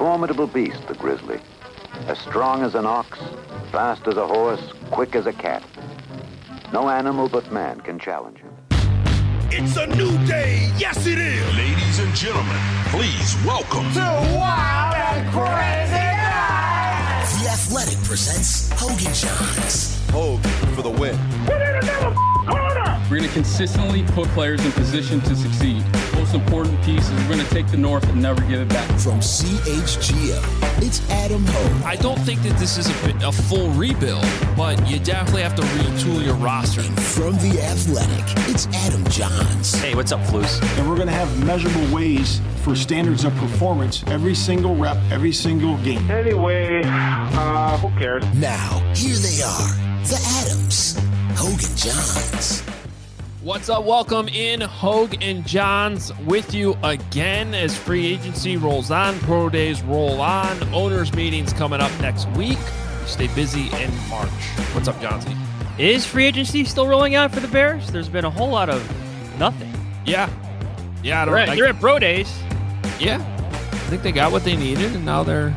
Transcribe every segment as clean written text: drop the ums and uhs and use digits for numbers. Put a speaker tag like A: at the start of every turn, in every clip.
A: formidable beast, the grizzly. As strong as an ox, fast as a horse, quick as a cat. No animal but man can challenge him.
B: It's a new day. Yes, it is.
C: Ladies and gentlemen, please welcome
D: to Wild and Crazy Night.
E: The Athletic presents Hogan Johns.
B: Hogan for the win.
D: Put in another corner.
F: We're going to consistently put players in position to succeed. Most important piece is we're going to take the North and never give it back.
E: From CHGO, it's Adam Hogue.
G: I don't think that this is a full rebuild, but you definitely have to retool your roster.
E: And from The Athletic, it's Adam Johns.
H: Hey, what's up, Flus?
I: And we're going to have measurable ways for standards of performance every single rep, every single game.
J: Anyway, who cares?
E: Now, here they are, the Adams, Hogan Johns.
G: What's up? Welcome in, Hogue and Johns, with you again as free agency rolls on, pro days roll on, owners meetings coming up next week. We stay busy in March. What's up, Johnsy?
H: Is free agency still rolling out for the Bears? There's been a whole lot of nothing.
G: Yeah.
H: They're at pro days.
G: Yeah. I think they got what they needed, and now they're...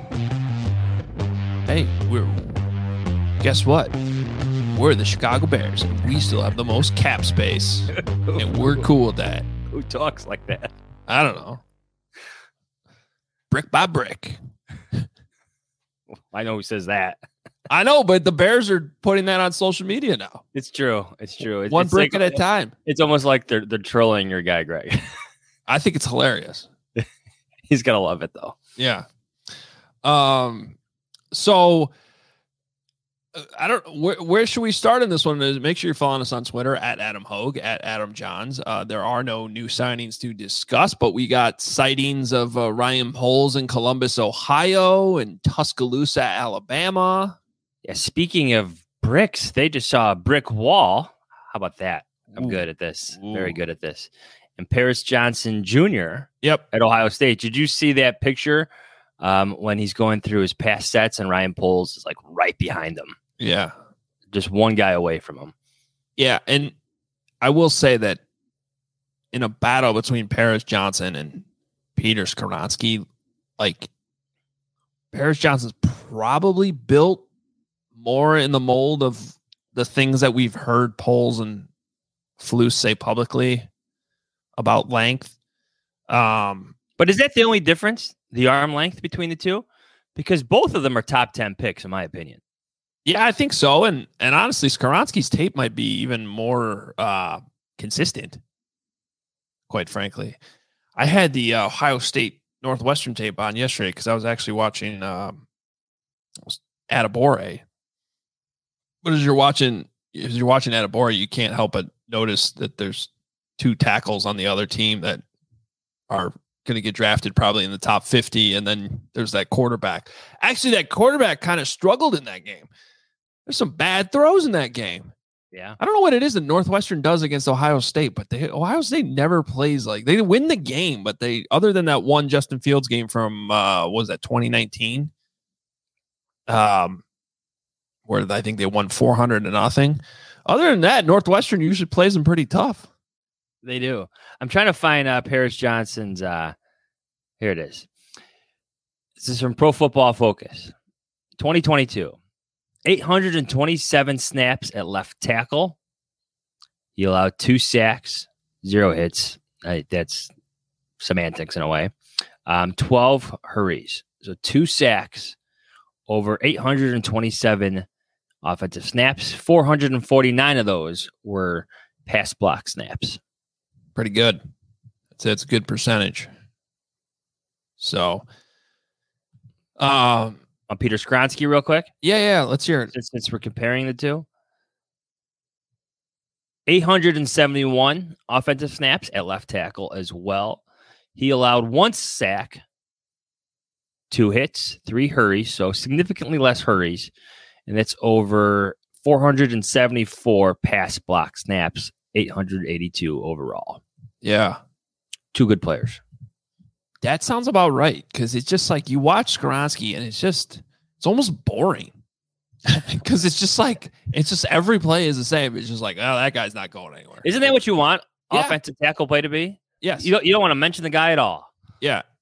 G: Hey, guess what? We're the Chicago Bears, and we still have the most cap space, and we're cool with that.
H: Who talks like that?
G: I don't know. Brick by brick.
H: I know who says that.
G: I know, but the Bears are putting that on social media now.
H: It's true.
G: One brick at a time.
H: It's almost like they're trolling your guy, Greg.
G: I think it's hilarious.
H: He's gonna love it though.
G: Yeah. So I don't. Where should we start in this one? Make sure you're following us on Twitter at Adam Hogue, at Adam Johns. There are no new signings to discuss, but we got sightings of Ryan Poles in Columbus, Ohio, and Tuscaloosa, Alabama.
H: Yeah. Speaking of bricks, they just saw a brick wall. How about that? I'm good at this. Very good at this. And Paris Johnson Jr.
G: Yep.
H: At Ohio State. Did you see that picture when he's going through his pass sets and Ryan Poles is like right behind him?
G: Yeah.
H: Just one guy away from him.
G: Yeah. And I will say that in a battle between Paris Johnson and Peter Skoronski, like Paris Johnson's probably built more in the mold of the things that we've heard Poles and Flus say publicly about length.
H: But is that the only difference? The arm length between the two? Because both of them are top 10 picks, in my opinion.
G: Yeah, I think so. And honestly, Skoronski's tape might be even more consistent, quite frankly. I had the Ohio State Northwestern tape on yesterday because I was actually watching Atabore. But as you're watching Atabore, you can't help but notice that there's two tackles on the other team that are going to get drafted probably in the top 50. And then there's that quarterback. Actually, that quarterback kind of struggled in that game. There's some bad throws in that game.
H: Yeah.
G: I don't know what it is that Northwestern does against Ohio State, but Ohio State never plays like they win the game, but they, other than that one Justin Fields game from, what was that 2019? Where I think they won 400-0. Other than that, Northwestern usually plays them pretty tough.
H: They do. I'm trying to find Paris Johnson's. Here it is. This is from Pro Football Focus. 2022. 827 snaps at left tackle. He allowed 2 sacks, 0 hits. That's semantics in a way. 12 hurries. So 2 sacks over 827 offensive snaps. 449 of those were pass block snaps.
G: Pretty good. That's a good percentage. So,
H: on Peter Skoronski real quick.
G: Yeah. Let's hear it.
H: Since we're comparing the two. 871 offensive snaps at left tackle as well. He allowed 1 sack, 2 hits, 3 hurries, so significantly less hurries. And that's over 474 pass block snaps, 882 overall.
G: Yeah.
H: 2 good players.
G: That sounds about right. Because it's just like you watch Skoronski and it's almost boring. Because it's just every play is the same. It's just like, oh, that guy's not going anywhere.
H: Isn't that what you want?
G: Yeah.
H: Offensive tackle play to be?
G: Yes.
H: You don't want to mention the guy at all.
G: Yeah.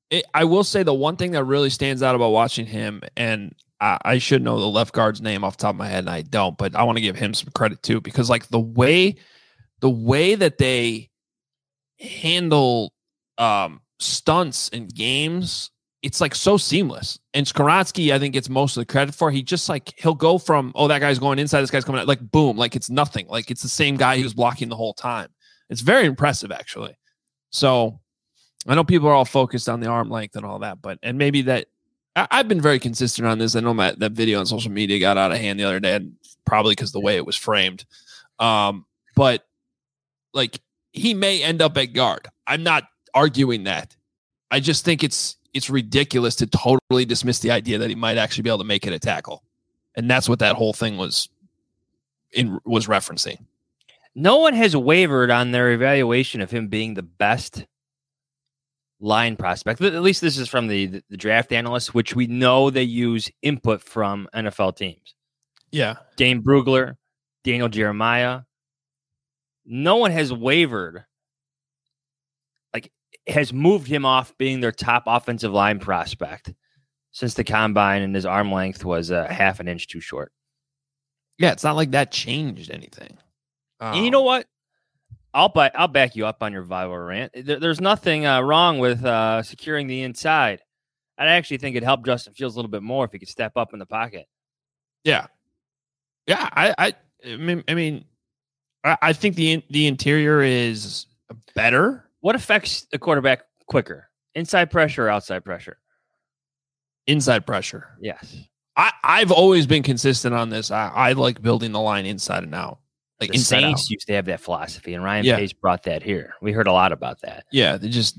G: I will say the one thing that really stands out about watching him, and I should know the left guard's name off the top of my head, and I don't, but I want to give him some credit too, because like the way that they handle stunts in games, it's like so seamless. And Skoronski, I think, gets most of the credit for. He just like he'll go from, oh, that guy's going inside, this guy's coming out, like boom, like it's nothing, like it's the same guy who's blocking the whole time. It's very impressive, actually. So I know people are all focused on the arm length and all that, but and maybe that I've been very consistent on this. I know that video on social media got out of hand the other day, probably because the way it was framed. But like he may end up at guard. I'm not arguing that. I just think it's ridiculous to totally dismiss the idea that he might actually be able to make it a tackle, and that's what that whole thing was referencing.
H: No one has wavered on their evaluation of him being the best line prospect. At least this is from the draft analysts, which we know they use input from NFL teams.
G: Yeah.
H: Dane Brugler, Daniel Jeremiah. No one has wavered, like has moved him off being their top offensive line prospect since the combine, and his arm length was half an inch too short.
G: Yeah, it's not like that changed anything.
H: And you know what? I'll back you up on your viral rant. There's nothing wrong with securing the inside. I actually think it'd help Justin Fields a little bit more if he could step up in the pocket.
G: Yeah. I mean, I think the interior is better.
H: What affects the quarterback quicker? Inside pressure or outside pressure?
G: Inside pressure.
H: Yes.
G: I've always been consistent on this. I like building the line inside and out. Like
H: the Saints used to have that philosophy, and Ryan Pace brought that here. We heard a lot about that.
G: Yeah,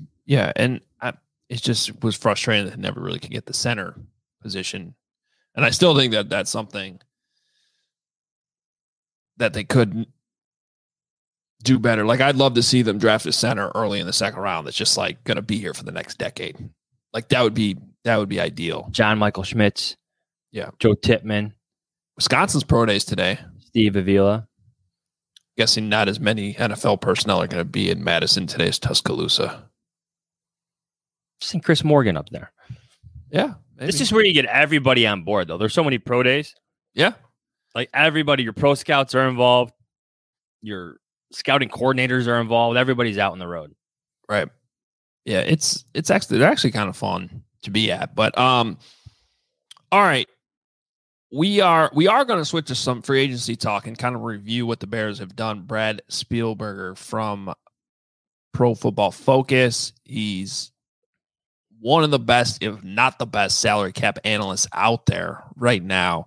G: it just was frustrating that they never really could get the center position. And I still think that that's something that they could do better. Like, I'd love to see them draft a center early in the second round that's just like going to be here for the next decade. Like, that would be ideal.
H: John Michael Schmitz.
G: Yeah.
H: Joe Tippmann.
G: Wisconsin's pro days today.
H: Steve Avila.
G: Guessing not as many NFL personnel are going to be in Madison today as Tuscaloosa.
H: Seen Chris Morgan up there.
G: Yeah. Maybe.
H: This is where you get everybody on board, though. There's so many pro days.
G: Yeah.
H: Like everybody, your pro scouts are involved. Your scouting coordinators are involved. Everybody's out on the road.
G: Right. Yeah. They're actually kind of fun to be at. But, all right. We are going to switch to some free agency talk and kind of review what the Bears have done. Brad Spielberger from Pro Football Focus. He's one of the best, if not the best, salary cap analysts out there right now.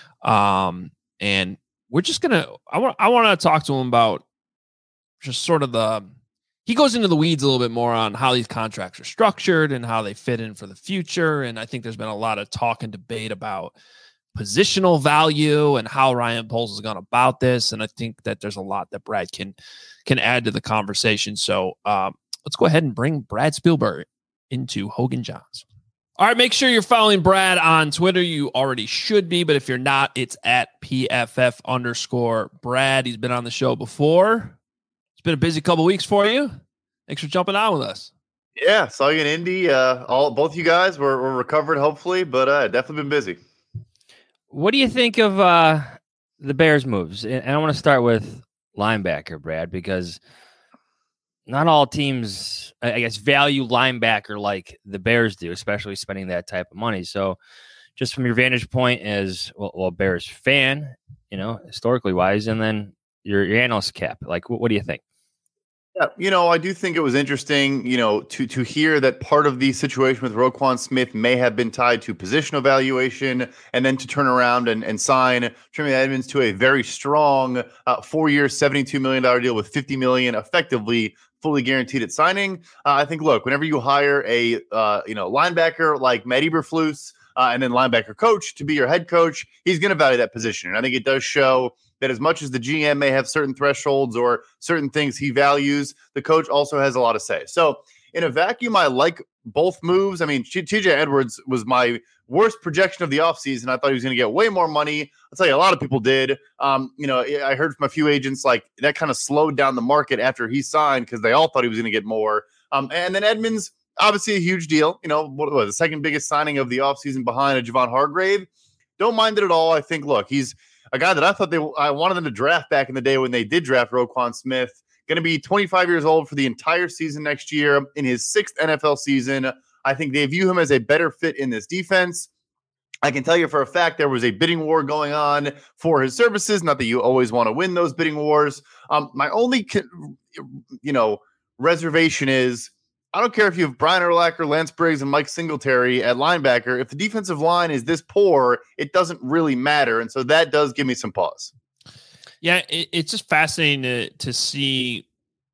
G: And we're just going to, I want to talk to him about just sort of he goes into the weeds a little bit more on how these contracts are structured and how they fit in for the future. And I think there's been a lot of talk and debate about positional value and how Ryan Poles has gone about this. And I think that there's a lot that Brad can add to the conversation. So let's go ahead and bring Brad Spielberger into Hogan Johns. All right, make sure you're following Brad on Twitter. You already should be, but if you're not, it's at PFF_. Brad, he's been on the show before. It's been a busy couple weeks for you. Thanks for jumping on with us.
K: Yeah, saw you in Indy. Both you guys were recovered, hopefully, but definitely been busy.
H: What do you think of the Bears moves? And I want to start with linebacker, Brad, because not all teams, I guess, value linebacker like the Bears do, especially spending that type of money. So just from your vantage point as a Bears fan, historically wise, and then your analyst cap, like, what do you think?
K: Yeah, I do think it was interesting, to hear that part of the situation with Roquan Smith may have been tied to position evaluation, and then to turn around and sign Tremaine Edmunds to a very strong 4-year, $72 million deal with $50 million effectively fully guaranteed at signing. I think, look, whenever you hire a linebacker like Matt Eberflus and then linebacker coach to be your head coach, he's going to value that position. And I think it does show that as much as the GM may have certain thresholds or certain things he values, the coach also has a lot to say. So in a vacuum, I like both moves. I mean, TJ Edwards was my worst projection of the offseason. I thought he was going to get way more money. I'll tell you, a lot of people did. I heard from a few agents like that kind of slowed down the market after he signed because they all thought he was going to get more. And then Edmunds, obviously a huge deal. What was the second biggest signing of the offseason behind a Javon Hargrave? Don't mind it at all. I think, look, he's a guy that I wanted them to draft back in the day when they did draft Roquan Smith. Going to be 25 years old for the entire season next year in his 6th NFL season. I think they view him as a better fit in this defense. I can tell you for a fact there was a bidding war going on for his services. Not that you always want to win those bidding wars. My only, reservation is I don't care if you have Brian Urlacher, Lance Briggs, and Mike Singletary at linebacker. If the defensive line is this poor, it doesn't really matter. And so that does give me some pause.
G: Yeah, it's just fascinating to see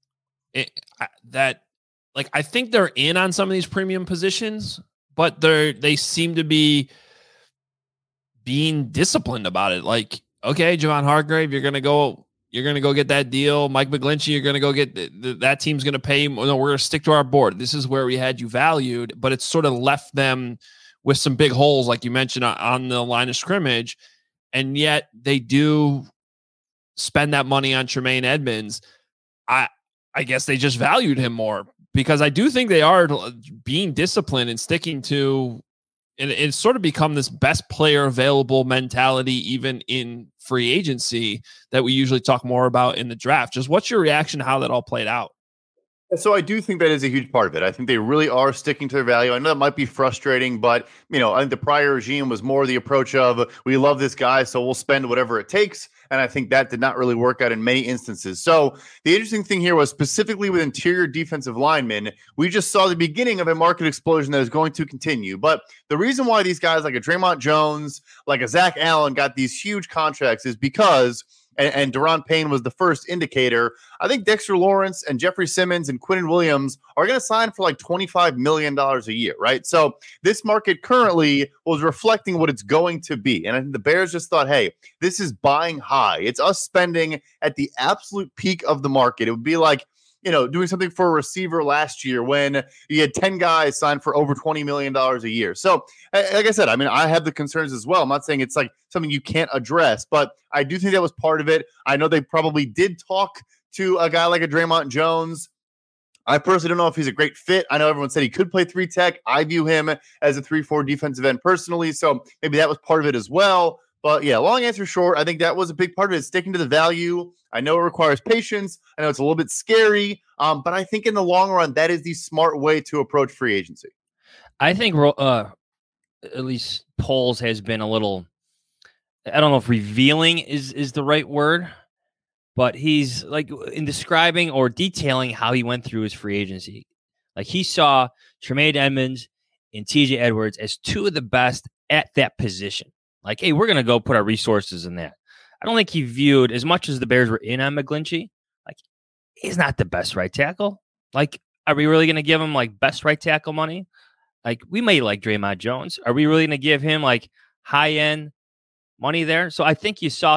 G: that. Like, I think they're in on some of these premium positions, but they seem to be being disciplined about it. Like, okay, Javon Hargrave, you're gonna go get that deal. Mike McGlinchey, you're gonna go get that team's gonna pay. No, we're gonna stick to our board. This is where we had you valued, but it's sort of left them with some big holes, like you mentioned, on the line of scrimmage, and yet they do spend that money on Tremaine Edmunds. I guess they just valued him more, because I do think they are being disciplined and sticking to. And it's sort of become this best player available mentality, even in free agency, that we usually talk more about in the draft. Just what's your reaction to how that all played out?
K: So I do think that is a huge part of it. I think they really are sticking to their value. I know that might be frustrating, but I think the prior regime was more the approach of, we love this guy, so we'll spend whatever it takes. And I think that did not really work out in many instances. So the interesting thing here was specifically with interior defensive linemen, we just saw the beginning of a market explosion that is going to continue. But the reason why these guys like a Draymond Jones, like a Zach Allen got these huge contracts is because and Daron Payne was the first indicator. I think Dexter Lawrence and Jeffrey Simmons and Quinnen Williams are going to sign for like $25 million a year, right? So this market currently was reflecting what it's going to be. And I think the Bears just thought, hey, this is buying high. It's us spending at the absolute peak of the market. It would be like, doing something for a receiver last year when you had 10 guys signed for over $20 million a year. So, like I said, I have the concerns as well. I'm not saying it's like something you can't address, but I do think that was part of it. I know they probably did talk to a guy like a Draymond Jones. I personally don't know if he's a great fit. I know everyone said he could play 3 tech. I view him as a 3-4 defensive end personally, so maybe that was part of it as well. But yeah, long answer short, I think that was a big part of it, sticking to the value. I know it requires patience. I know it's a little bit scary, but I think in the long run, that is the smart way to approach free agency.
H: I think at least Poles has been a little, I don't know if revealing is the right word, but he's like in describing or detailing how he went through his free agency. Like he saw Tremaine Edmunds and TJ Edwards as 2 of the best at that position. Like, hey, we're going to go put our resources in that. I don't think he viewed, as much as the Bears were in on McGlinchey, like, he's not the best right tackle. Like, are we really going to give him, like, best right tackle money? Like, we may like Draymond Jones. Are we really going to give him, like, high-end money there? So I think you saw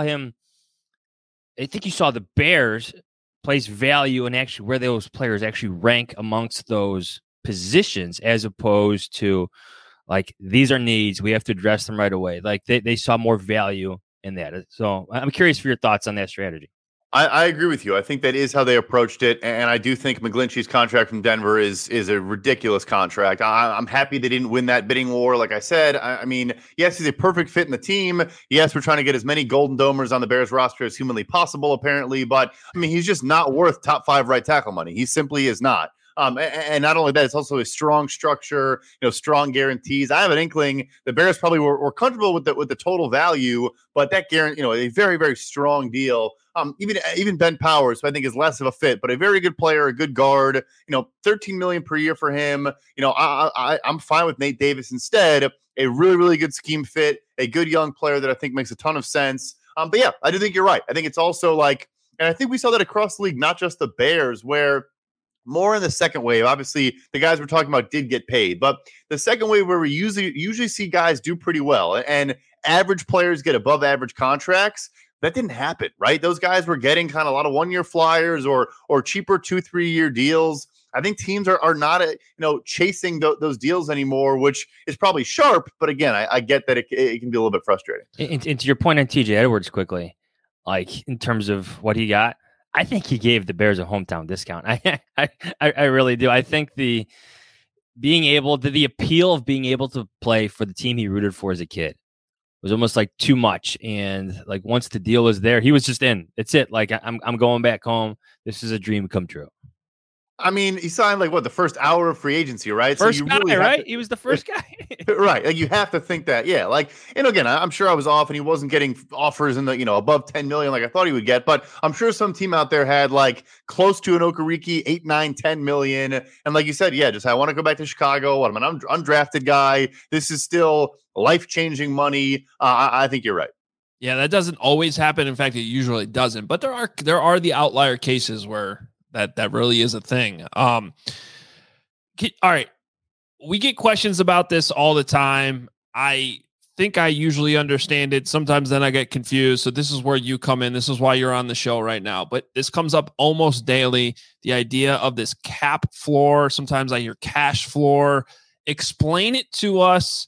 H: the Bears place value in actually where those players actually rank amongst those positions, as opposed to, like, these are needs. We have to address them right away. Like, they saw more value in that. So I'm curious for your thoughts on that strategy.
K: I agree with you. I think that is how they approached it. And I do think McGlinchey's contract from Denver is a ridiculous contract. I'm happy they didn't win that bidding war. Like I said, I mean, yes, he's a perfect fit in the team. Yes, we're trying to get as many Golden Domers on the Bears roster as humanly possible, apparently. But, I mean, he's just not worth top 5 right tackle money. He simply is not. And not only that, it's also a strong structure, strong guarantees. I have an inkling the Bears probably were comfortable with the total value, but that guarantee, a very, very strong deal. Even Ben Powers, who I think is less of a fit, but a very good player, a good guard. $13 million per year for him. I'm fine with Nate Davis instead. A really, really good scheme fit, a good young player that I think makes a ton of sense. But yeah, I do think you're right. I think it's also like, and I think we saw that across the league, not just the Bears, where more in the second wave. Obviously, the guys we're talking about did get paid, but the second wave where we usually see guys do pretty well and average players get above average contracts, that didn't happen, right? Those guys were getting kind of a lot of 1-year flyers or cheaper 2-3 year deals. I think teams are not chasing those deals anymore, which is probably sharp. But again, I get that it can be a little bit frustrating.
H: And to your point on TJ Edwards quickly, like in terms of what he got, I think he gave the Bears a hometown discount. I really do. I think the the appeal of being able to play for the team he rooted for as a kid was almost like too much. And like once the deal was there, he was just in. That's it. Like I'm going back home. This is a dream come true.
K: I mean, he signed like the first hour of free agency, right?
H: First guy, right? He was the first guy.
K: Right. Like you have to think that, yeah. Like, and again, I'm sure I was off and he wasn't getting offers in the, above 10 million like I thought he would get, but I'm sure some team out there had like close to an Okereke, 8, 9, 10 million. And like you said, yeah, just I want to go back to Chicago. I'm an undrafted guy. This is still life-changing money. I think you're right.
G: Yeah, that doesn't always happen. In fact, it usually doesn't, but there are the outlier cases where that really is a thing. All right. We get questions about this all the time. I think I usually understand it. Sometimes then I get confused. So this is where you come in. This is why you're on the show right now. But this comes up almost daily. The idea of this cap floor. Sometimes I hear cash floor. Explain it to us,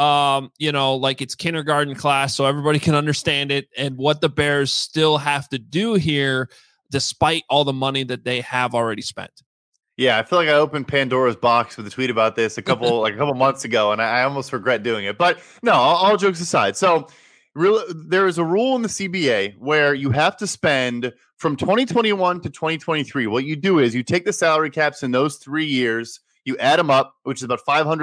G: like it's kindergarten class so everybody can understand it and what the Bears still have to do here despite all the money that they have already spent.
K: Yeah, I feel like I opened Pandora's box with a tweet about this a couple months ago, and I almost regret doing it. But no, all jokes aside. So there is a rule in the CBA where you have to spend from 2021 to 2023. What you do is you take the salary caps in those 3 years, you add them up, which is about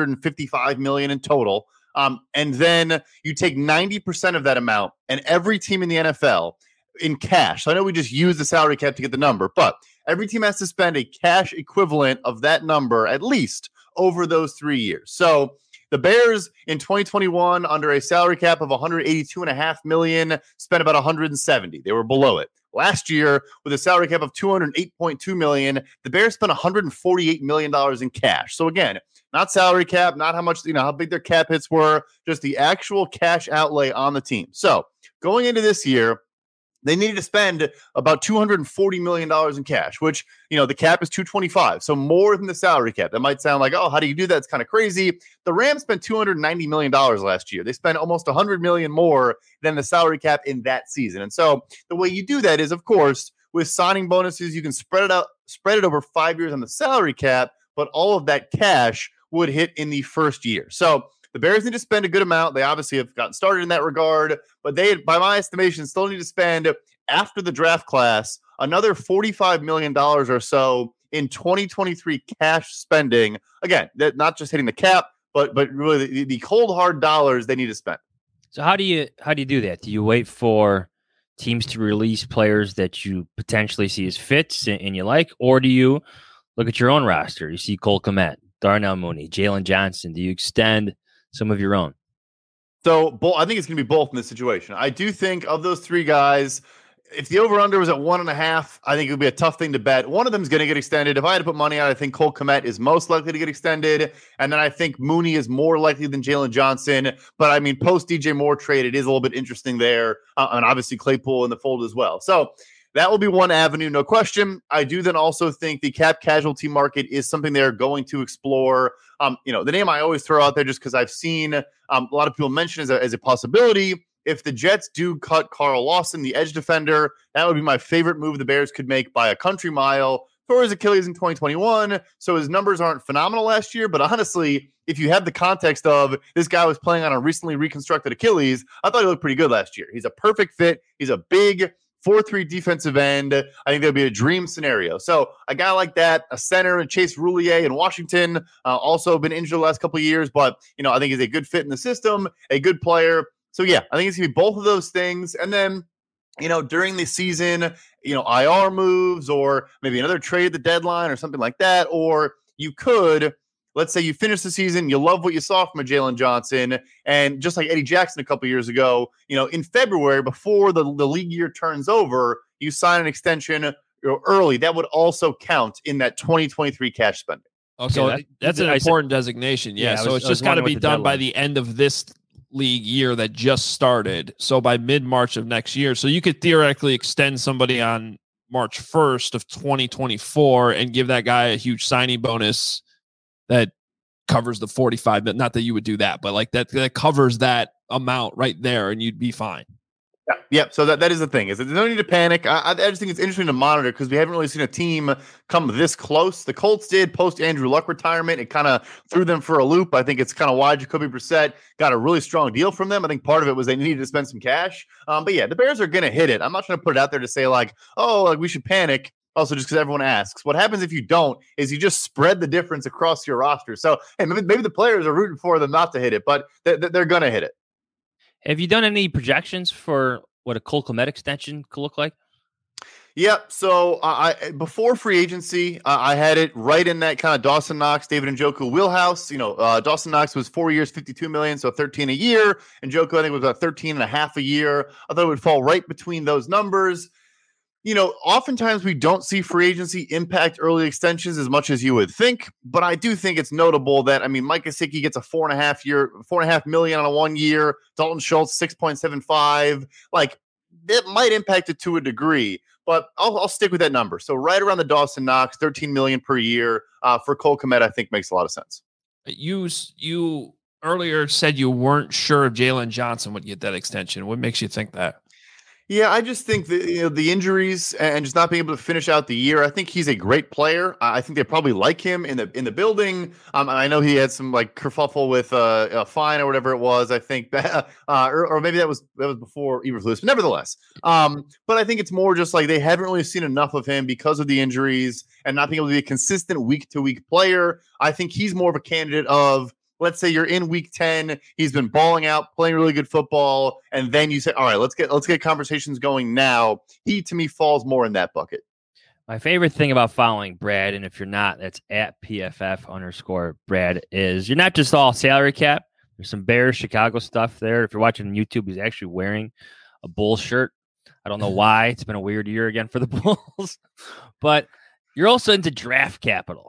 K: $555 million in total, and then you take 90% of that amount, and every team in the NFL in cash. So I know we just use the salary cap to get the number, but every team has to spend a cash equivalent of that number at least over those 3 years. So the Bears in 2021 under a salary cap of $182.5 million spent about $170. They were below it. Last year with a salary cap of $208.2 million, the Bears spent $148 million in cash. So again, not salary cap, not how much, how big their cap hits were, just the actual cash outlay on the team. So going into this year, they needed to spend about $240 million in cash, which, the cap is $225. So more than the salary cap. That might sound like, oh, how do you do that? It's kind of crazy. The Rams spent $290 million last year. They spent almost $100 million more than the salary cap in that season. And so the way you do that is, of course, with signing bonuses, you can spread it over 5 years on the salary cap, but all of that cash would hit in the first year. So the Bears need to spend a good amount. They obviously have gotten started in that regard, but they, by my estimation, still need to spend after the draft class another $45 million or so in 2023 cash spending. Again, that not just hitting the cap, but really the cold hard dollars they need to spend.
H: So how do you do that? Do you wait for teams to release players that you potentially see as fits and you like, or do you look at your own roster? You see Cole Kmet, Darnell Mooney, Jalen Johnson. Do you extend some of your own?
K: So I think it's going to be both in this situation. I do think of those three guys, if the over-under was at 1.5, I think it would be a tough thing to bet. One of them is going to get extended. If I had to put money on, I think Cole Kmet is most likely to get extended. And then I think Mooney is more likely than Jalen Johnson. But I mean, post DJ Moore trade, it is a little bit interesting there. And obviously Claypool in the fold as well. So that will be one avenue, no question. I do then also think the cap casualty market is something they're going to explore. The name I always throw out there just because I've seen a lot of people mention as a possibility. If the Jets do cut Carl Lawson, the edge defender, that would be my favorite move the Bears could make by a country mile for his Achilles in 2021. So his numbers aren't phenomenal last year, but honestly, if you have the context of this guy was playing on a recently reconstructed Achilles, I thought he looked pretty good last year. He's a perfect fit. He's a big 4-3 defensive end. I think that'd be a dream scenario. So a guy like that, a center, and Chase Roulier in Washington, also been injured the last couple of years, but I think he's a good fit in the system, a good player. So yeah, I think it's gonna be both of those things. And then, during the season, IR moves or maybe another trade at the deadline or something like that. Or you could, let's say you finish the season, you love what you saw from a Jalen Johnson, and just like Eddie Jackson a couple of years ago, in February, before the league year turns over, you sign an extension early. That would also count in that 2023 cash spending.
G: Okay, so that's an important designation. Yeah, so it's just got to be done by the end of this league year that just started. So by mid-March of next year. So you could theoretically extend somebody on March 1st of 2024 and give that guy a huge signing bonus that covers the 45. Not that you would do that, but like that covers that amount right there and you'd be fine.
K: Yeah. So that is the thing. Is that there's no need to panic. I just think it's interesting to monitor because we haven't really seen a team come this close. The Colts did post Andrew Luck retirement. It kind of threw them for a loop. I think it's kind of why Jacoby Brissett got a really strong deal from them. I think part of it was they needed to spend some cash. But yeah, the Bears are going to hit it. I'm not trying to put it out there to say like, oh, like we should panic. Also, just because everyone asks. What happens if you don't is you just spread the difference across your roster. So hey, maybe the players are rooting for them not to hit it, but they're going to hit it.
H: Have you done any projections for what a Cole Kmet extension could look like?
K: Yep. So I before free agency, I had it right in that kind of Dawson Knox, David Njoku wheelhouse. Dawson Knox was 4 years, $52 million, so 13 a year. And Njoku, I think, was about 13 and a half a year. I thought it would fall right between those numbers. Oftentimes we don't see free agency impact early extensions as much as you would think, but I do think it's notable that, Mike Gesicki gets a $4.5 million on a 1 year, Dalton Schultz, 6.75. Like, it might impact it to a degree, but I'll stick with that number. So right around the Dawson Knox, $13 million per year for Cole Kmet, I think makes a lot of sense.
G: You earlier said you weren't sure if Jalen Johnson would get that extension. What makes you think that?
K: Yeah, I just think that the injuries and just not being able to finish out the year. I think he's a great player. I think they probably like him in the building. I know he had some like kerfuffle with a fine or whatever it was. I think that, or maybe that was before Eberflus. But nevertheless, but I think it's more just like they haven't really seen enough of him because of the injuries and not being able to be a consistent week to week player. I think he's more of a candidate of. Let's say you're in week 10, he's been balling out, playing really good football, and then you say, all right, let's get conversations going now. He, to me, falls more in that bucket.
H: My favorite thing about following Brad, and if you're not, that's at PFF_Brad, is you're not just all salary cap. There's some Bears Chicago stuff there. If you're watching on YouTube, he's actually wearing a Bulls shirt. I don't know why. It's been a weird year again for the Bulls. But you're also into draft capital.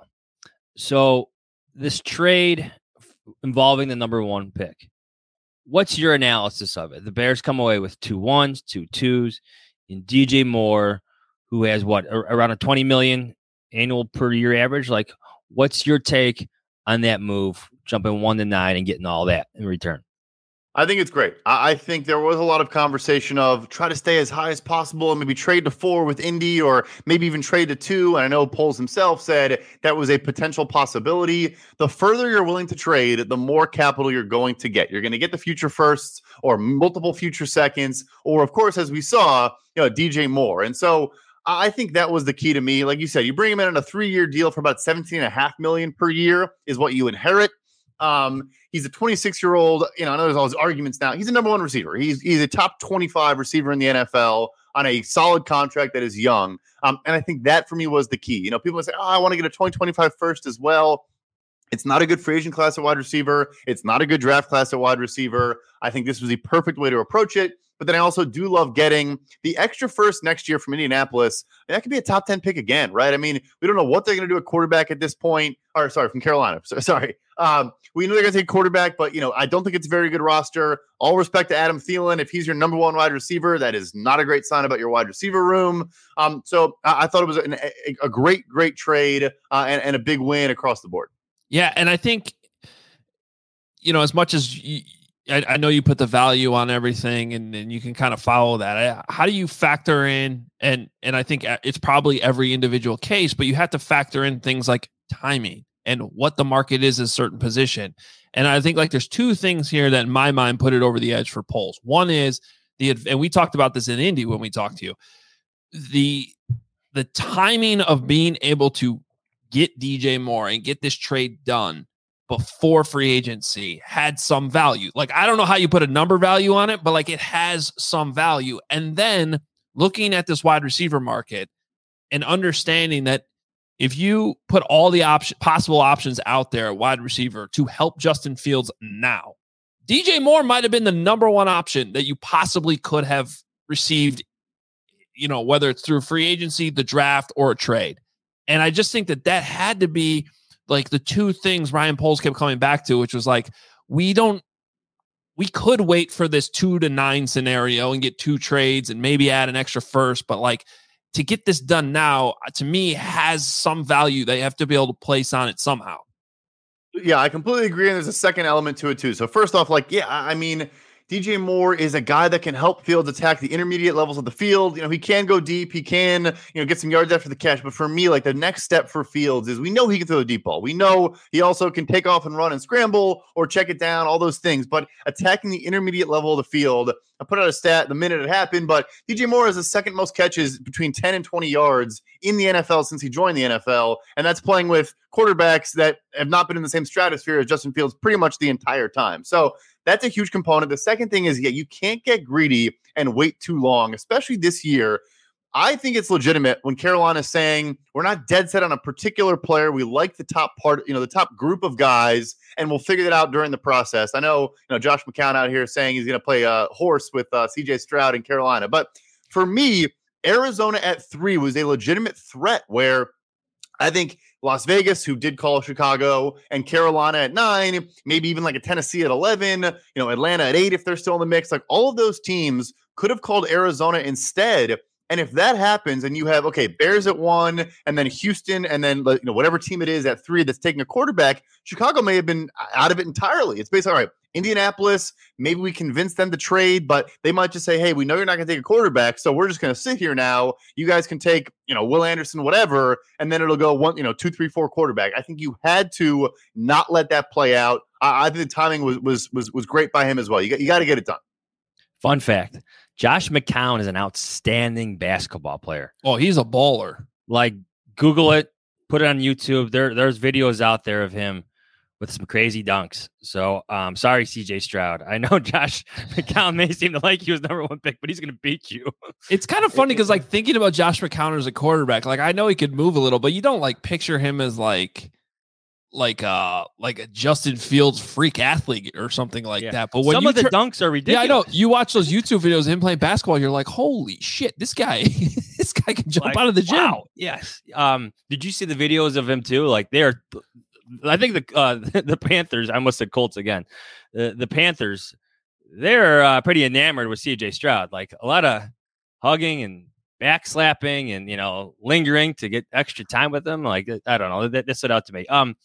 H: So this trade involving the number 1 pick. What's your analysis of it? The Bears come away with 2 1s, 2 2s, and DJ Moore, who has around a $20 million annual per year average. Like, what's your take on that move, jumping 1 to 9 and getting all that in return?
K: I think it's great. I think there was a lot of conversation of try to stay as high as possible and maybe trade to 4 with Indy or maybe even trade to 2. And I know Poles himself said that was a potential possibility. The further you're willing to trade, the more capital you're going to get. You're going to get the future firsts or multiple future seconds, or of course, as we saw, DJ Moore. And so I think that was the key to me. Like you said, you bring him in on a 3-year deal for about $17.5 million per year is what you inherit. He's a 26-year-old, I know there's all these arguments now. He's a number 1 receiver. He's a top 25 receiver in the NFL on a solid contract that is young. And I think that for me was the key. People say, I want to get a 2025 first as well. It's not a good free agent class at wide receiver. It's not a good draft class at wide receiver. I think this was the perfect way to approach it. But then I also do love getting the extra first next year from Indianapolis. And that could be a top 10 pick again, right? We don't know what they're going to do at quarterback at this point. Or sorry, from Carolina. Sorry. We know they're going to take quarterback, but I don't think it's a very good roster. All respect to Adam Thielen. If he's your number 1 wide receiver, that is not a great sign about your wide receiver room. So I thought it was a great trade and a big win across the board.
G: Yeah, and I think, as much as I know you put the value on everything and you can kind of follow that. How do you factor in, and I think it's probably every individual case, but you have to factor in things like timing and what the market is in a certain position. And I think like there's 2 things here that in my mind put it over the edge for Poles. One is and we talked about this in Indy when we talked to you, the timing of being able to get DJ Moore and get this trade done before free agency had some value. Like, I don't know how you put a number value on it, but like it has some value. And then looking at this wide receiver market and understanding that if you put all the possible options out there at wide receiver to help Justin Fields now, DJ Moore might have been the number 1 option that you possibly could have received, whether it's through free agency, the draft, or a trade. And I just think that had to be like the 2 things Ryan Poles kept coming back to, which was like, we could wait for this 2 to 9 scenario and get 2 trades and maybe add an extra first, but like to get this done now, to me, has some value. They have to be able to place on it somehow.
K: Yeah, I completely agree. And there's a second element to it too. So first off, DJ Moore is a guy that can help Fields attack the intermediate levels of the field. You know, he can go deep. He can, get some yards after the catch. But for me, like, the next step for Fields is we know he can throw the deep ball. We know he also can take off and run and scramble or check it down, all those things. But attacking the intermediate level of the field, I put out a stat the minute it happened, but DJ Moore has the second most catches between 10 and 20 yards in the NFL since he joined the NFL. And that's playing with quarterbacks that have not been in the same stratosphere as Justin Fields pretty much the entire time. So that's a huge component. The second thing is, you can't get greedy and wait too long, especially this year. I think it's legitimate when Carolina is saying we're not dead set on a particular player. We like the top part, the top group of guys, and we'll figure that out during the process. I know, Josh McCown out here saying he's going to play a horse with CJ Stroud in Carolina. But for me, Arizona at 3 was a legitimate threat where I think Las Vegas, who did call Chicago, and Carolina at 9, maybe even like a Tennessee at 11, Atlanta at 8 if they're still in the mix. Like, all of those teams could have called Arizona instead. And if that happens and you have, Bears at 1 and then Houston and then, whatever team it is at 3 that's taking a quarterback, Chicago may have been out of it entirely. It's basically, all right, Indianapolis, maybe we convince them to trade, but they might just say, hey, we know you're not going to take a quarterback, so we're just going to sit here now. You guys can take, Will Anderson, whatever, and then it'll go 1, 2, 3, 4 quarterback. I think you had to not let that play out. I think the timing was great by him as well. You got to get it done.
H: Fun fact. Josh McCown is an outstanding basketball player.
G: Oh, he's a baller.
H: Like, Google it, put it on YouTube. There's videos out there of him with some crazy dunks. So, sorry, CJ Stroud. I know Josh McCown may seem to like you as number 1 pick, but he's going to beat you.
G: It's kind of funny because, thinking about Josh McCown as a quarterback, I know he could move a little, but you don't picture him as like a Justin Fields freak athlete or something like that. But when
H: some of the dunks are ridiculous.
G: Yeah, I know. You watch those YouTube videos of him playing basketball, you're like, holy shit, this guy can jump out of the gym.
H: Wow. Yes. Did you see the videos of him too? I think the Panthers, I almost said Colts again. The Panthers, they're pretty enamored with CJ Stroud. Like, a lot of hugging and backslapping and, lingering to get extra time with them. Like, I don't know. That stood out to me.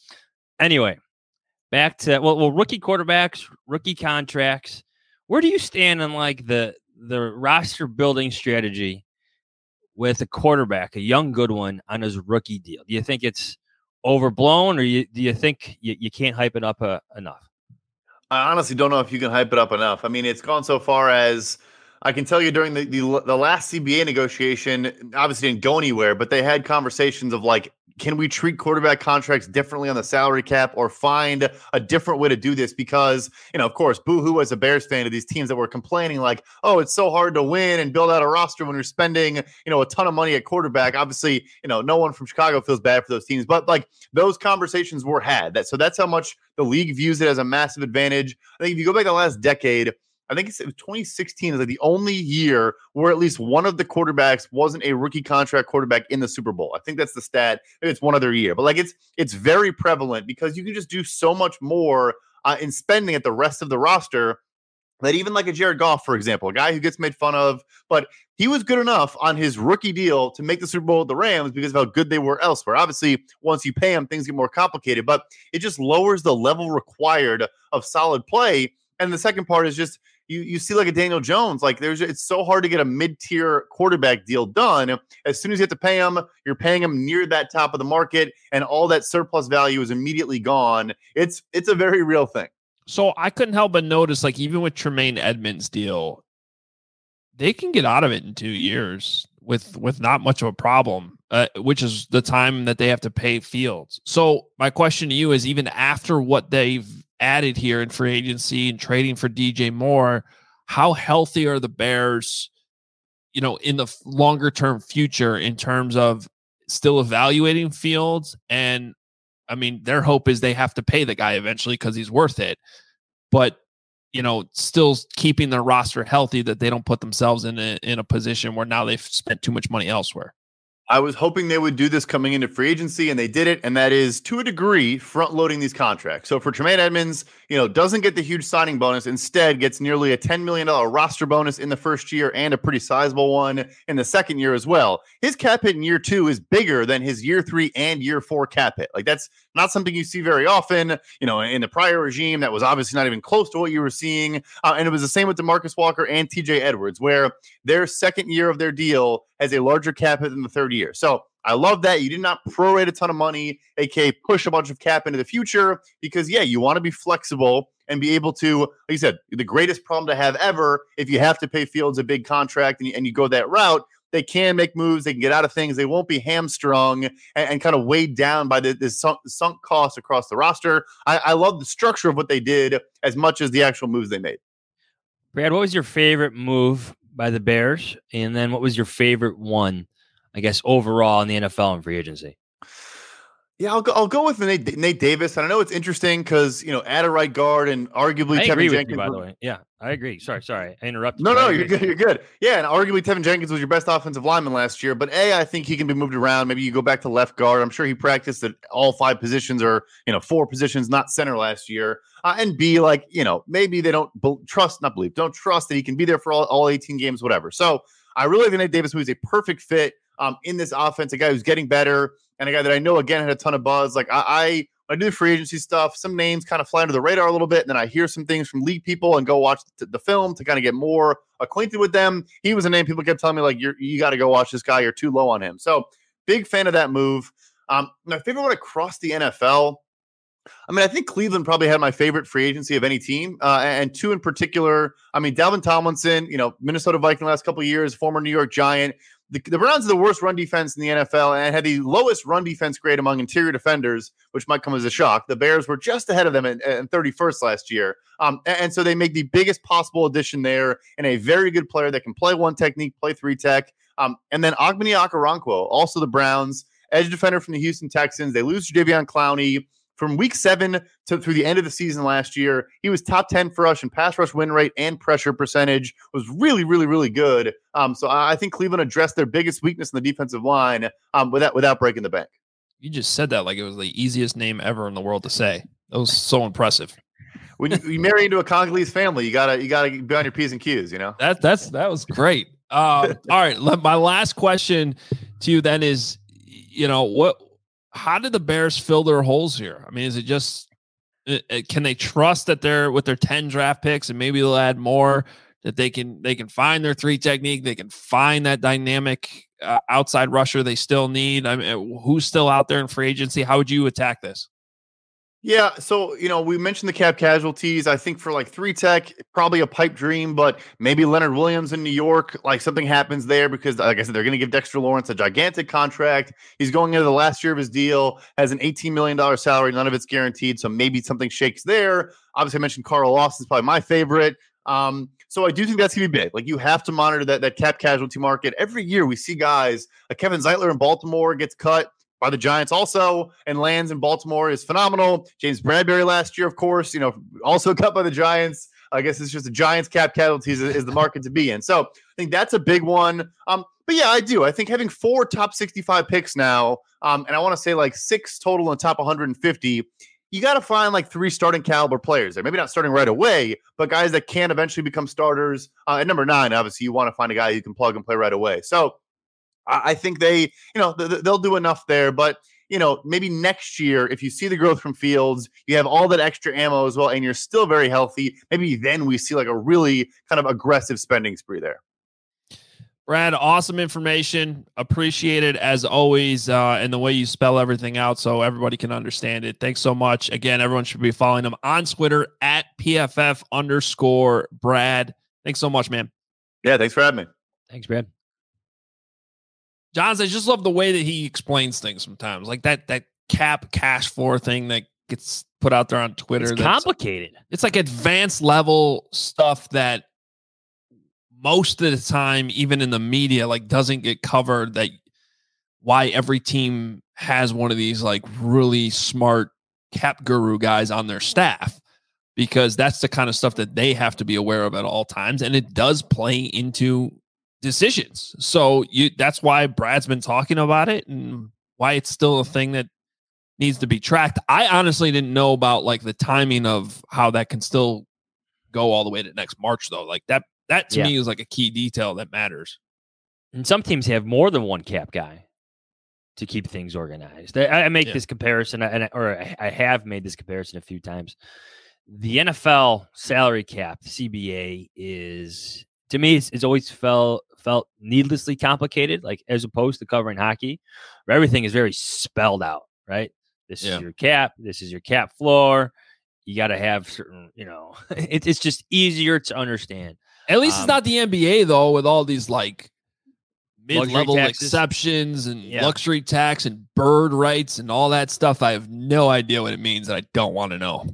H: Anyway, back to, rookie quarterbacks, rookie contracts. Where do you stand on the roster building strategy with a quarterback, a young good one, on his rookie deal? Do you think it's overblown, or do you think you can't hype it up enough?
K: I honestly don't know if you can hype it up enough. I mean, it's gone so far as I can tell you during the last CBA negotiation, obviously didn't go anywhere, but they had conversations of can we treat quarterback contracts differently on the salary cap or find a different way to do this? Because, of course, boo-hoo as a Bears fan of these teams that were complaining oh, it's so hard to win and build out a roster when you're spending, a ton of money at quarterback. Obviously, no one from Chicago feels bad for those teams, but those conversations were had. So that's how much the league views it as a massive advantage. I think if you go back the last decade, I think it's 2016 is the only year where at least one of the quarterbacks wasn't a rookie contract quarterback in the Super Bowl. I think that's the stat. Maybe it's one other year, but it's very prevalent because you can just do so much more in spending at the rest of the roster that even a Jared Goff, for example, a guy who gets made fun of, but he was good enough on his rookie deal to make the Super Bowl with the Rams because of how good they were elsewhere. Obviously, once you pay him, things get more complicated, but it just lowers the level required of solid play. And the second part is just, you see a Daniel Jones, it's so hard to get a mid-tier quarterback deal done. As soon as you have to pay him, you're paying him near that top of the market, and all that surplus value is immediately gone. It's a very real thing.
G: So I couldn't help but notice, even with Tremaine Edmonds' deal, they can get out of it in 2 years with not much of a problem, which is the time that they have to pay Fields. So my question to you is, even after what they've added here in free agency and trading for DJ Moore, how healthy are the Bears, in the longer term future in terms of still evaluating Fields? And I mean, their hope is they have to pay the guy eventually because he's worth it, but still keeping their roster healthy, that they don't put themselves in a position where now they've spent too much money elsewhere.
K: I was hoping they would do this coming into free agency, and they did it, and that is, to a degree, front-loading these contracts. So for Tremaine Edmunds, doesn't get the huge signing bonus, instead gets nearly a $10 million roster bonus in the first year and a pretty sizable one in the second year as well. His cap hit in year 2 is bigger than his year 3 and year 4 cap hit. Like, that's not something you see very often. In the prior regime, that was obviously not even close to what you were seeing. And it was the same with DeMarcus Walker and TJ Edwards, where their second year of their deal has a larger cap hit than the third year. So I love that. You did not prorate a ton of money, aka push a bunch of cap into the future, because, you want to be flexible and be able to, like you said, the greatest problem to have ever, if you have to pay Fields a big contract and you go that route, they can make moves. They can get out of things. They won't be hamstrung and kind of weighed down by this sunk cost across the roster. I love the structure of what they did as much as the actual moves they made.
H: Brad, what was your favorite move by the Bears? And then what was your favorite one, I guess, overall in the NFL and free agency?
K: Yeah, I'll go with Nate Davis. And I know it's interesting because, at a right guard and arguably Tevin Jenkins.
H: By the way. Yeah, I agree. Sorry. I interrupted.
K: No, you're good. You're good. Yeah, and arguably Tevin Jenkins was your best offensive lineman last year. But I think he can be moved around. Maybe you go back to left guard. I'm sure he practiced at all 5 positions or, 4 positions, not center last year. And B, maybe they don't trust that he can be there for all 18 games, whatever. So I really think Nate Davis was a perfect fit in this offense, a guy who's getting better and a guy that I know, again, had a ton of buzz. Like I do the free agency stuff, some names kind of fly under the radar a little bit, and then I hear some things from league people and go watch the film to kind of get more acquainted with them. He was a name people kept telling me, like, you got to go watch this guy. You're too low on him. So big fan of that move. My favorite one across the NFL, I think Cleveland probably had my favorite free agency of any team, and 2 in particular. Dalvin Tomlinson, Minnesota Viking last couple of years, former New York Giant. The Browns are the worst run defense in the NFL and had the lowest run defense grade among interior defenders, which might come as a shock. The Bears were just ahead of them in 31st last year. And so they make the biggest possible addition there and a very good player that can play 1 technique, play 3 tech. And then Ogbeni Okoronkwo, also the Browns, edge defender from the Houston Texans. They lose Jadeveon Clowney. From week 7 through the end of the season last year, he was top 10 for us in pass rush win rate and pressure percentage, was really, really, really good. So I think Cleveland addressed their biggest weakness in the defensive line without breaking the bank.
G: You just said that like it was the easiest name ever in the world to say. That was so impressive.
K: When you marry into a Congolese family, you gotta be on your P's and Q's,
G: That was great. All right. My last question to you then is, how did the Bears fill their holes here? Is it just can they trust that they're with their 10 draft picks and maybe they'll add more, that they can find their 3 technique, they can find that dynamic outside rusher they still need? Who's still out there in free agency? How would you attack this?
K: Yeah, so, we mentioned the cap casualties. I think for like 3 tech, probably a pipe dream, but maybe Leonard Williams in New York, like something happens there because, like I said, they're going to give Dexter Lawrence a gigantic contract. He's going into the last year of his deal, has an $18 million salary. None of it's guaranteed, so maybe something shakes there. Obviously, I mentioned Carl Lawson's probably my favorite. So I do think that's going to be big. Like, you have to monitor that cap casualty market. Every year we see guys like Kevin Zeitler in Baltimore gets cut by the Giants also, and lands in Baltimore is phenomenal. James Bradbury last year, of course, also cut by the Giants. I guess it's just the Giants cap casualties is the market to be in. So I think that's a big one. But yeah, I do. I think having 4 top 65 picks now, and I want to say like 6 total in the top 150, you got to find like 3 starting caliber players there. Maybe not starting right away, but guys that can eventually become starters. At number 9, obviously, you want to find a guy you can plug and play right away. So I think they'll do enough there, but maybe next year, if you see the growth from Fields, you have all that extra ammo as well, and you're still very healthy. Maybe then we see like a really kind of aggressive spending spree there.
G: Brad, awesome information. Appreciate it as always, and the way you spell everything out so everybody can understand it. Thanks so much. Again, everyone should be following him on Twitter at PFF_Brad. Thanks so much, man.
K: Yeah, thanks for having me.
H: Thanks, Brad.
G: Johns, I just love the way that he explains things sometimes. Like that cap cash floor thing that gets put out there on Twitter.
H: It's complicated.
G: It's like advanced level stuff that most of the time, even in the media, like doesn't get covered. That why every team has one of these like really smart cap guru guys on their staff, because that's the kind of stuff that they have to be aware of at all times. And it does play into decisions. So that's why Brad's been talking about it and why it's still a thing that needs to be tracked. I honestly didn't know about like the timing of how that can still go all the way to next March though. Like that to me is like a key detail that matters.
H: And some teams have more than one cap guy to keep things organized. I make this comparison, I have made this comparison a few times. The NFL salary cap, CBA, is, to me, it's always felt needlessly complicated, like as opposed to covering hockey, where everything is very spelled out, right? This is your cap. This is your cap floor. You got to have certain, it's just easier to understand.
G: At least it's not the NBA, though, with all these like mid-level exceptions and luxury tax and bird rights and all that stuff. I have no idea what it means, and I don't want to know.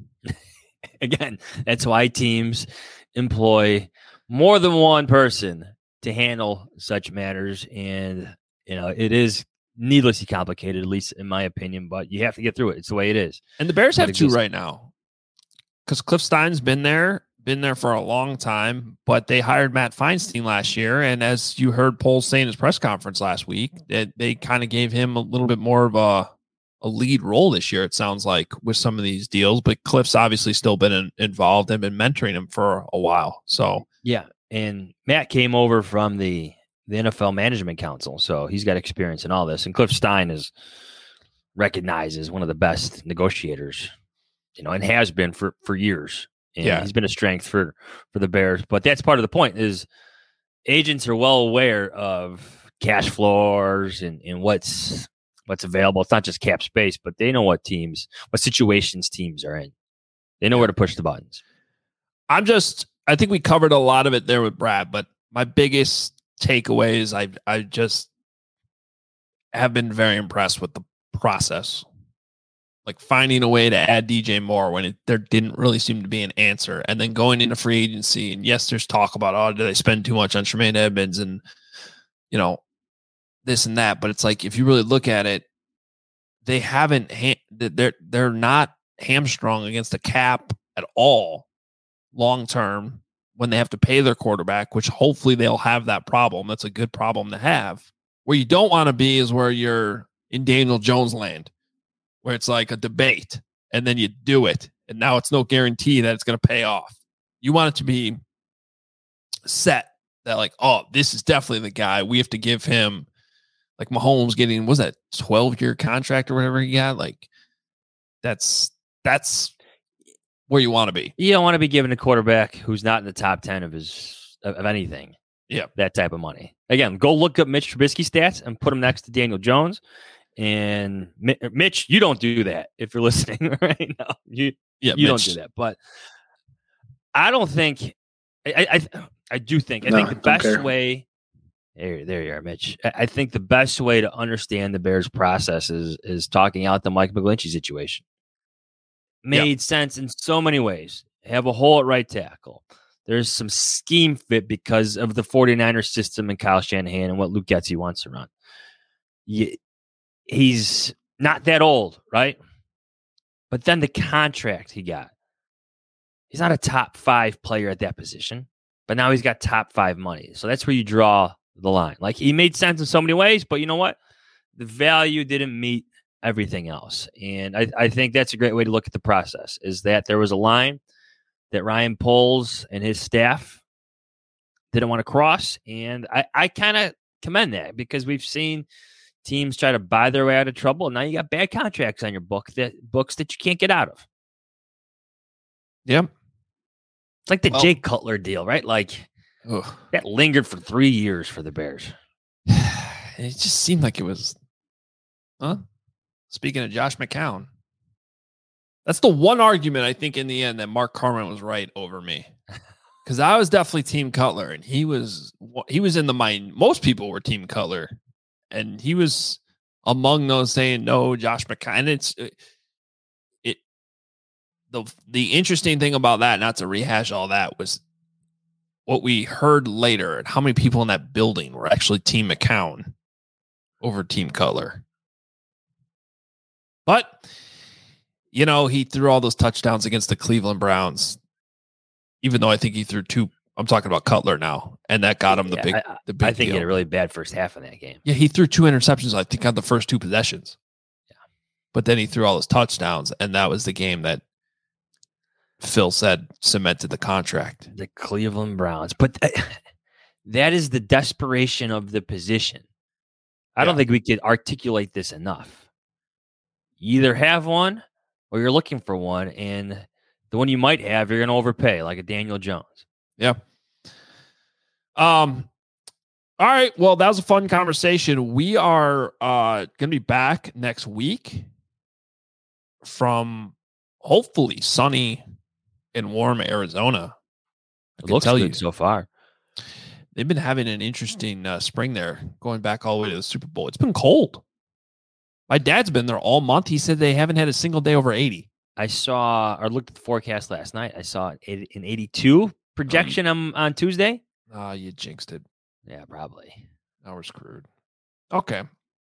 H: Again, that's why teams employ more than one person to handle such matters. And, it is needlessly complicated, at least in my opinion, but you have to get through it. It's the way it is.
G: And the Bears have two right now because Cliff Stein's been there for a long time, but they hired Matt Feinstein last year. And as you heard Poles say in his press conference last week, that they kind of gave him a little bit more of a lead role this year, it sounds like, with some of these deals. But Cliff's obviously still been involved and been mentoring him for a while. So,
H: yeah. And Matt came over from the NFL Management Council, so he's got experience in all this. And Cliff Stein is recognized as one of the best negotiators, and has been for years. And he's been a strength for the Bears. But that's part of the point is agents are well aware of cash floors and what's available. It's not just cap space, but they know what situations teams are in. They know where to push the buttons.
G: I think we covered a lot of it there with Brad, but my biggest takeaway is I just have been very impressed with the process. Like finding a way to add DJ Moore when there didn't really seem to be an answer, and then going into free agency. And yes, there's talk about, did they spend too much on Tremaine Edmonds and, this and that. But it's like, if you really look at it, they haven't, they're not hamstrung against the cap at all long-term when they have to pay their quarterback, which hopefully they'll have that problem. That's a good problem to have. Where you don't want to be is where you're in Daniel Jones land, where it's like a debate and then you do it. And now it's no guarantee that it's going to pay off. You want it to be set that like, this is definitely the guy. We have to give him, like Mahomes getting, was that 12-year contract or whatever he got? Like that's where you want to be.
H: You don't want to be giving a quarterback who's not in the top 10 of anything.
G: Yeah.
H: That type of money. Again, go look up Mitch Trubisky stats and put him next to Daniel Jones. And Mitch, you don't do that if you're listening right now. You don't do that. But I don't think I think the best way. There you are, Mitch. I think the best way to understand the Bears process is talking out the Mike McGlinchey situation. Made sense in so many ways. Have a hole at right tackle. There's some scheme fit because of the 49ers system and Kyle Shanahan and what Luke Getsy wants to run. He's not that old, right? But then the contract he got. He's not a top 5 player at that position, but now he's got top 5 money. So that's where you draw the line. Like, he made sense in so many ways, but you know what? The value didn't meet everything else. And I think that's a great way to look at the process, is that there was a line that Ryan Poles and his staff didn't want to cross. And I kind of commend that, because we've seen teams try to buy their way out of trouble, and now you got bad contracts on your books that you can't get out of.
G: Yep.
H: It's like the Jay Cutler deal, right? Like, that lingered for 3 years for the Bears.
G: It just seemed like it was, Speaking of Josh McCown, that's the one argument I think in the end that Mark Carman was right over me. Because I was definitely Team Cutler, and he was in the mind. Most people were Team Cutler, and he was among those saying no, Josh McCown. And the interesting thing about that, not to rehash all that, was what we heard later and how many people in that building were actually Team McCown over Team Cutler. But, he threw all those touchdowns against the Cleveland Browns, even though I think he threw 2 I'm talking about Cutler now, and that got him the big
H: I think
G: deal.
H: he had a really bad first half in that game.
G: Yeah, he threw 2 interceptions, I think, on the first 2 possessions.
H: Yeah.
G: But then he threw all his touchdowns, and that was the game that Phil said cemented the contract.
H: The Cleveland Browns. But that is the desperation of the position. I don't think we could articulate this enough. You either have one or you're looking for one, and the one you might have, you're going to overpay, like a Daniel Jones.
G: Yeah. All right. Well, that was a fun conversation. We are going to be back next week from hopefully sunny and warm Arizona.
H: It looks good so far.
G: They've been having an interesting spring there, going back all the way to the Super Bowl. It's been cold. My dad's been there all month. He said they haven't had a single day over 80.
H: I saw or looked at the forecast last night. I saw an 82 projection on Tuesday.
G: You jinxed it.
H: Yeah, probably.
G: Now we're screwed. Okay.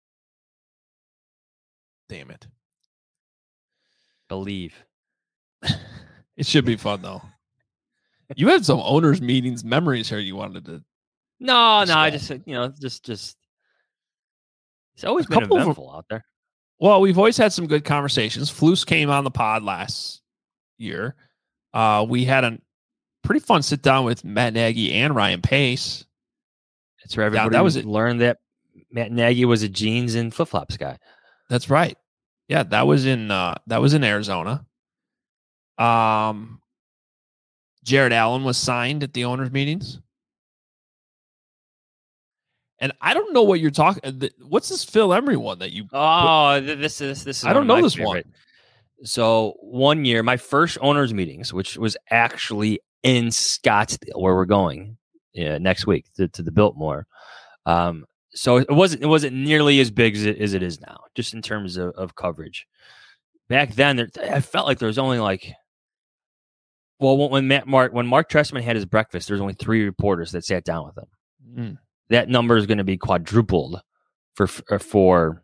G: Damn it.
H: Believe.
G: It should be fun, though. You had some owners' meetings memories here you wanted to.
H: No, I just, it's always been eventful out there.
G: Well, we've always had some good conversations. Flus came on the pod last year. We had a pretty fun sit down with Matt Nagy and Ryan Pace.
H: That's where everybody learned that Matt Nagy was a jeans and flip flops guy.
G: That's right. Yeah, that was in Arizona. Jared Allen was signed at the owners' meetings. And I don't know what you're talking. What's this Phil Emery one that you?
H: This is.
G: I don't know this favorite one.
H: So 1 year, my first owners' meetings, which was actually in Scottsdale, where we're going next week to the Biltmore. So it wasn't nearly as big as it is now, just in terms of coverage. Back then, I felt like there was only when Mark Trestman had his breakfast, there was only 3 reporters that sat down with him.
G: Mm.
H: That number is going to be quadrupled for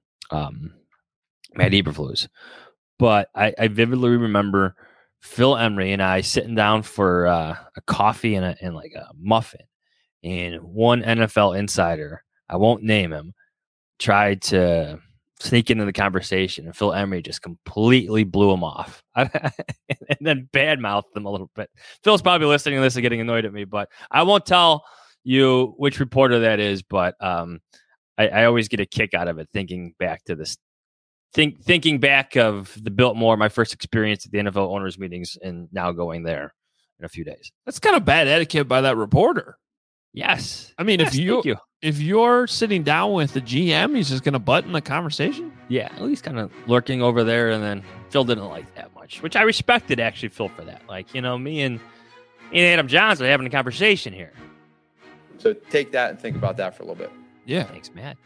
H: Matt Eberflus. But I vividly remember Phil Emery and I sitting down for a coffee and like a muffin. And one NFL insider, I won't name him, tried to sneak into the conversation. And Phil Emery just completely blew him off. And then badmouthed them a little bit. Phil's probably listening to this and getting annoyed at me, but I won't tell you which reporter that is, but I always get a kick out of it thinking back to this, thinking back of the Biltmore, my first experience at the NFL owners meetings, and now going there in a few days.
G: That's kind of bad etiquette by that reporter.
H: Yes,
G: I mean, if you're sitting down with the GM, he's just going to butt in the conversation.
H: Yeah, at least kind of lurking over there, and then Phil didn't like that much, which I respected actually Phil for that. Like, me and Adam Johnson are having a conversation here.
L: So take that and think about that for a little bit.
G: Yeah.
H: Thanks, Matt.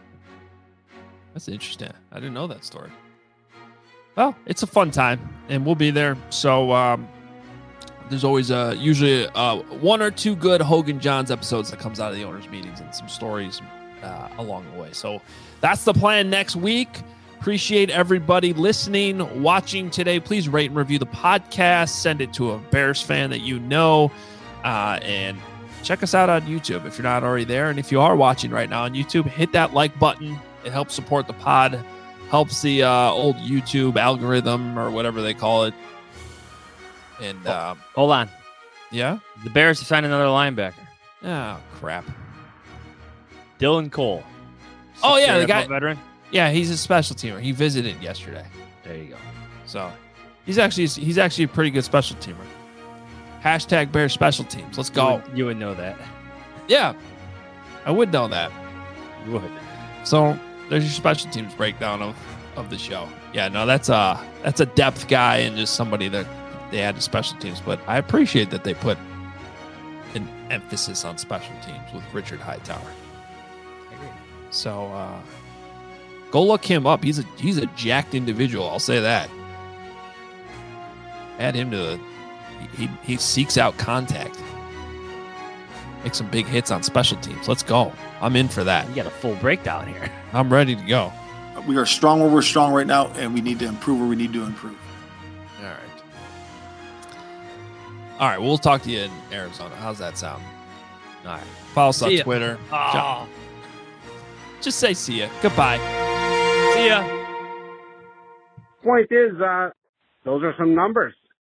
G: That's interesting. I didn't know that story. Well, it's a fun time, and we'll be there. So there's always usually 1 or 2 good Hogan Johns episodes that comes out of the owners' meetings and some stories along the way. So that's the plan next week. Appreciate everybody listening, watching today. Please rate and review the podcast. Send it to a Bears fan that you know, and check us out on YouTube if you're not already there. And if you are watching right now on YouTube, hit that like button. It helps support the pod, helps the old YouTube algorithm or whatever they call it. And
H: hold on.
G: Yeah?
H: The Bears have signed another linebacker.
G: Oh, crap.
H: Dylan Cole.
G: Oh, yeah, the guy.
H: Veteran.
G: Yeah, he's a special teamer. He visited yesterday.
H: There you go.
G: So he's actually a pretty good special teamer. Hashtag Bears special teams. Let's go.
H: You would know that.
G: Yeah, I would know that.
H: You would.
G: So there's your special teams breakdown of the show. Yeah, no, that's a depth guy and just somebody that they add to special teams. But I appreciate that they put an emphasis on special teams with Richard Hightower.
H: I agree.
G: So go look him up. He's a jacked individual. I'll say that. Add him to he seeks out contact. Make some big hits on special teams. Let's go. I'm in for that.
H: You got a full breakdown here.
G: I'm ready to go.
I: We are strong where we're strong right now, and we need to improve where we need to improve.
G: All All right, we'll talk to you in Arizona. How's that sound?
H: All right.
G: Follow us on
H: See ya.
G: Twitter.
H: Oh.
G: Just say see ya. Goodbye.
H: See ya.
J: Point is, those are some numbers.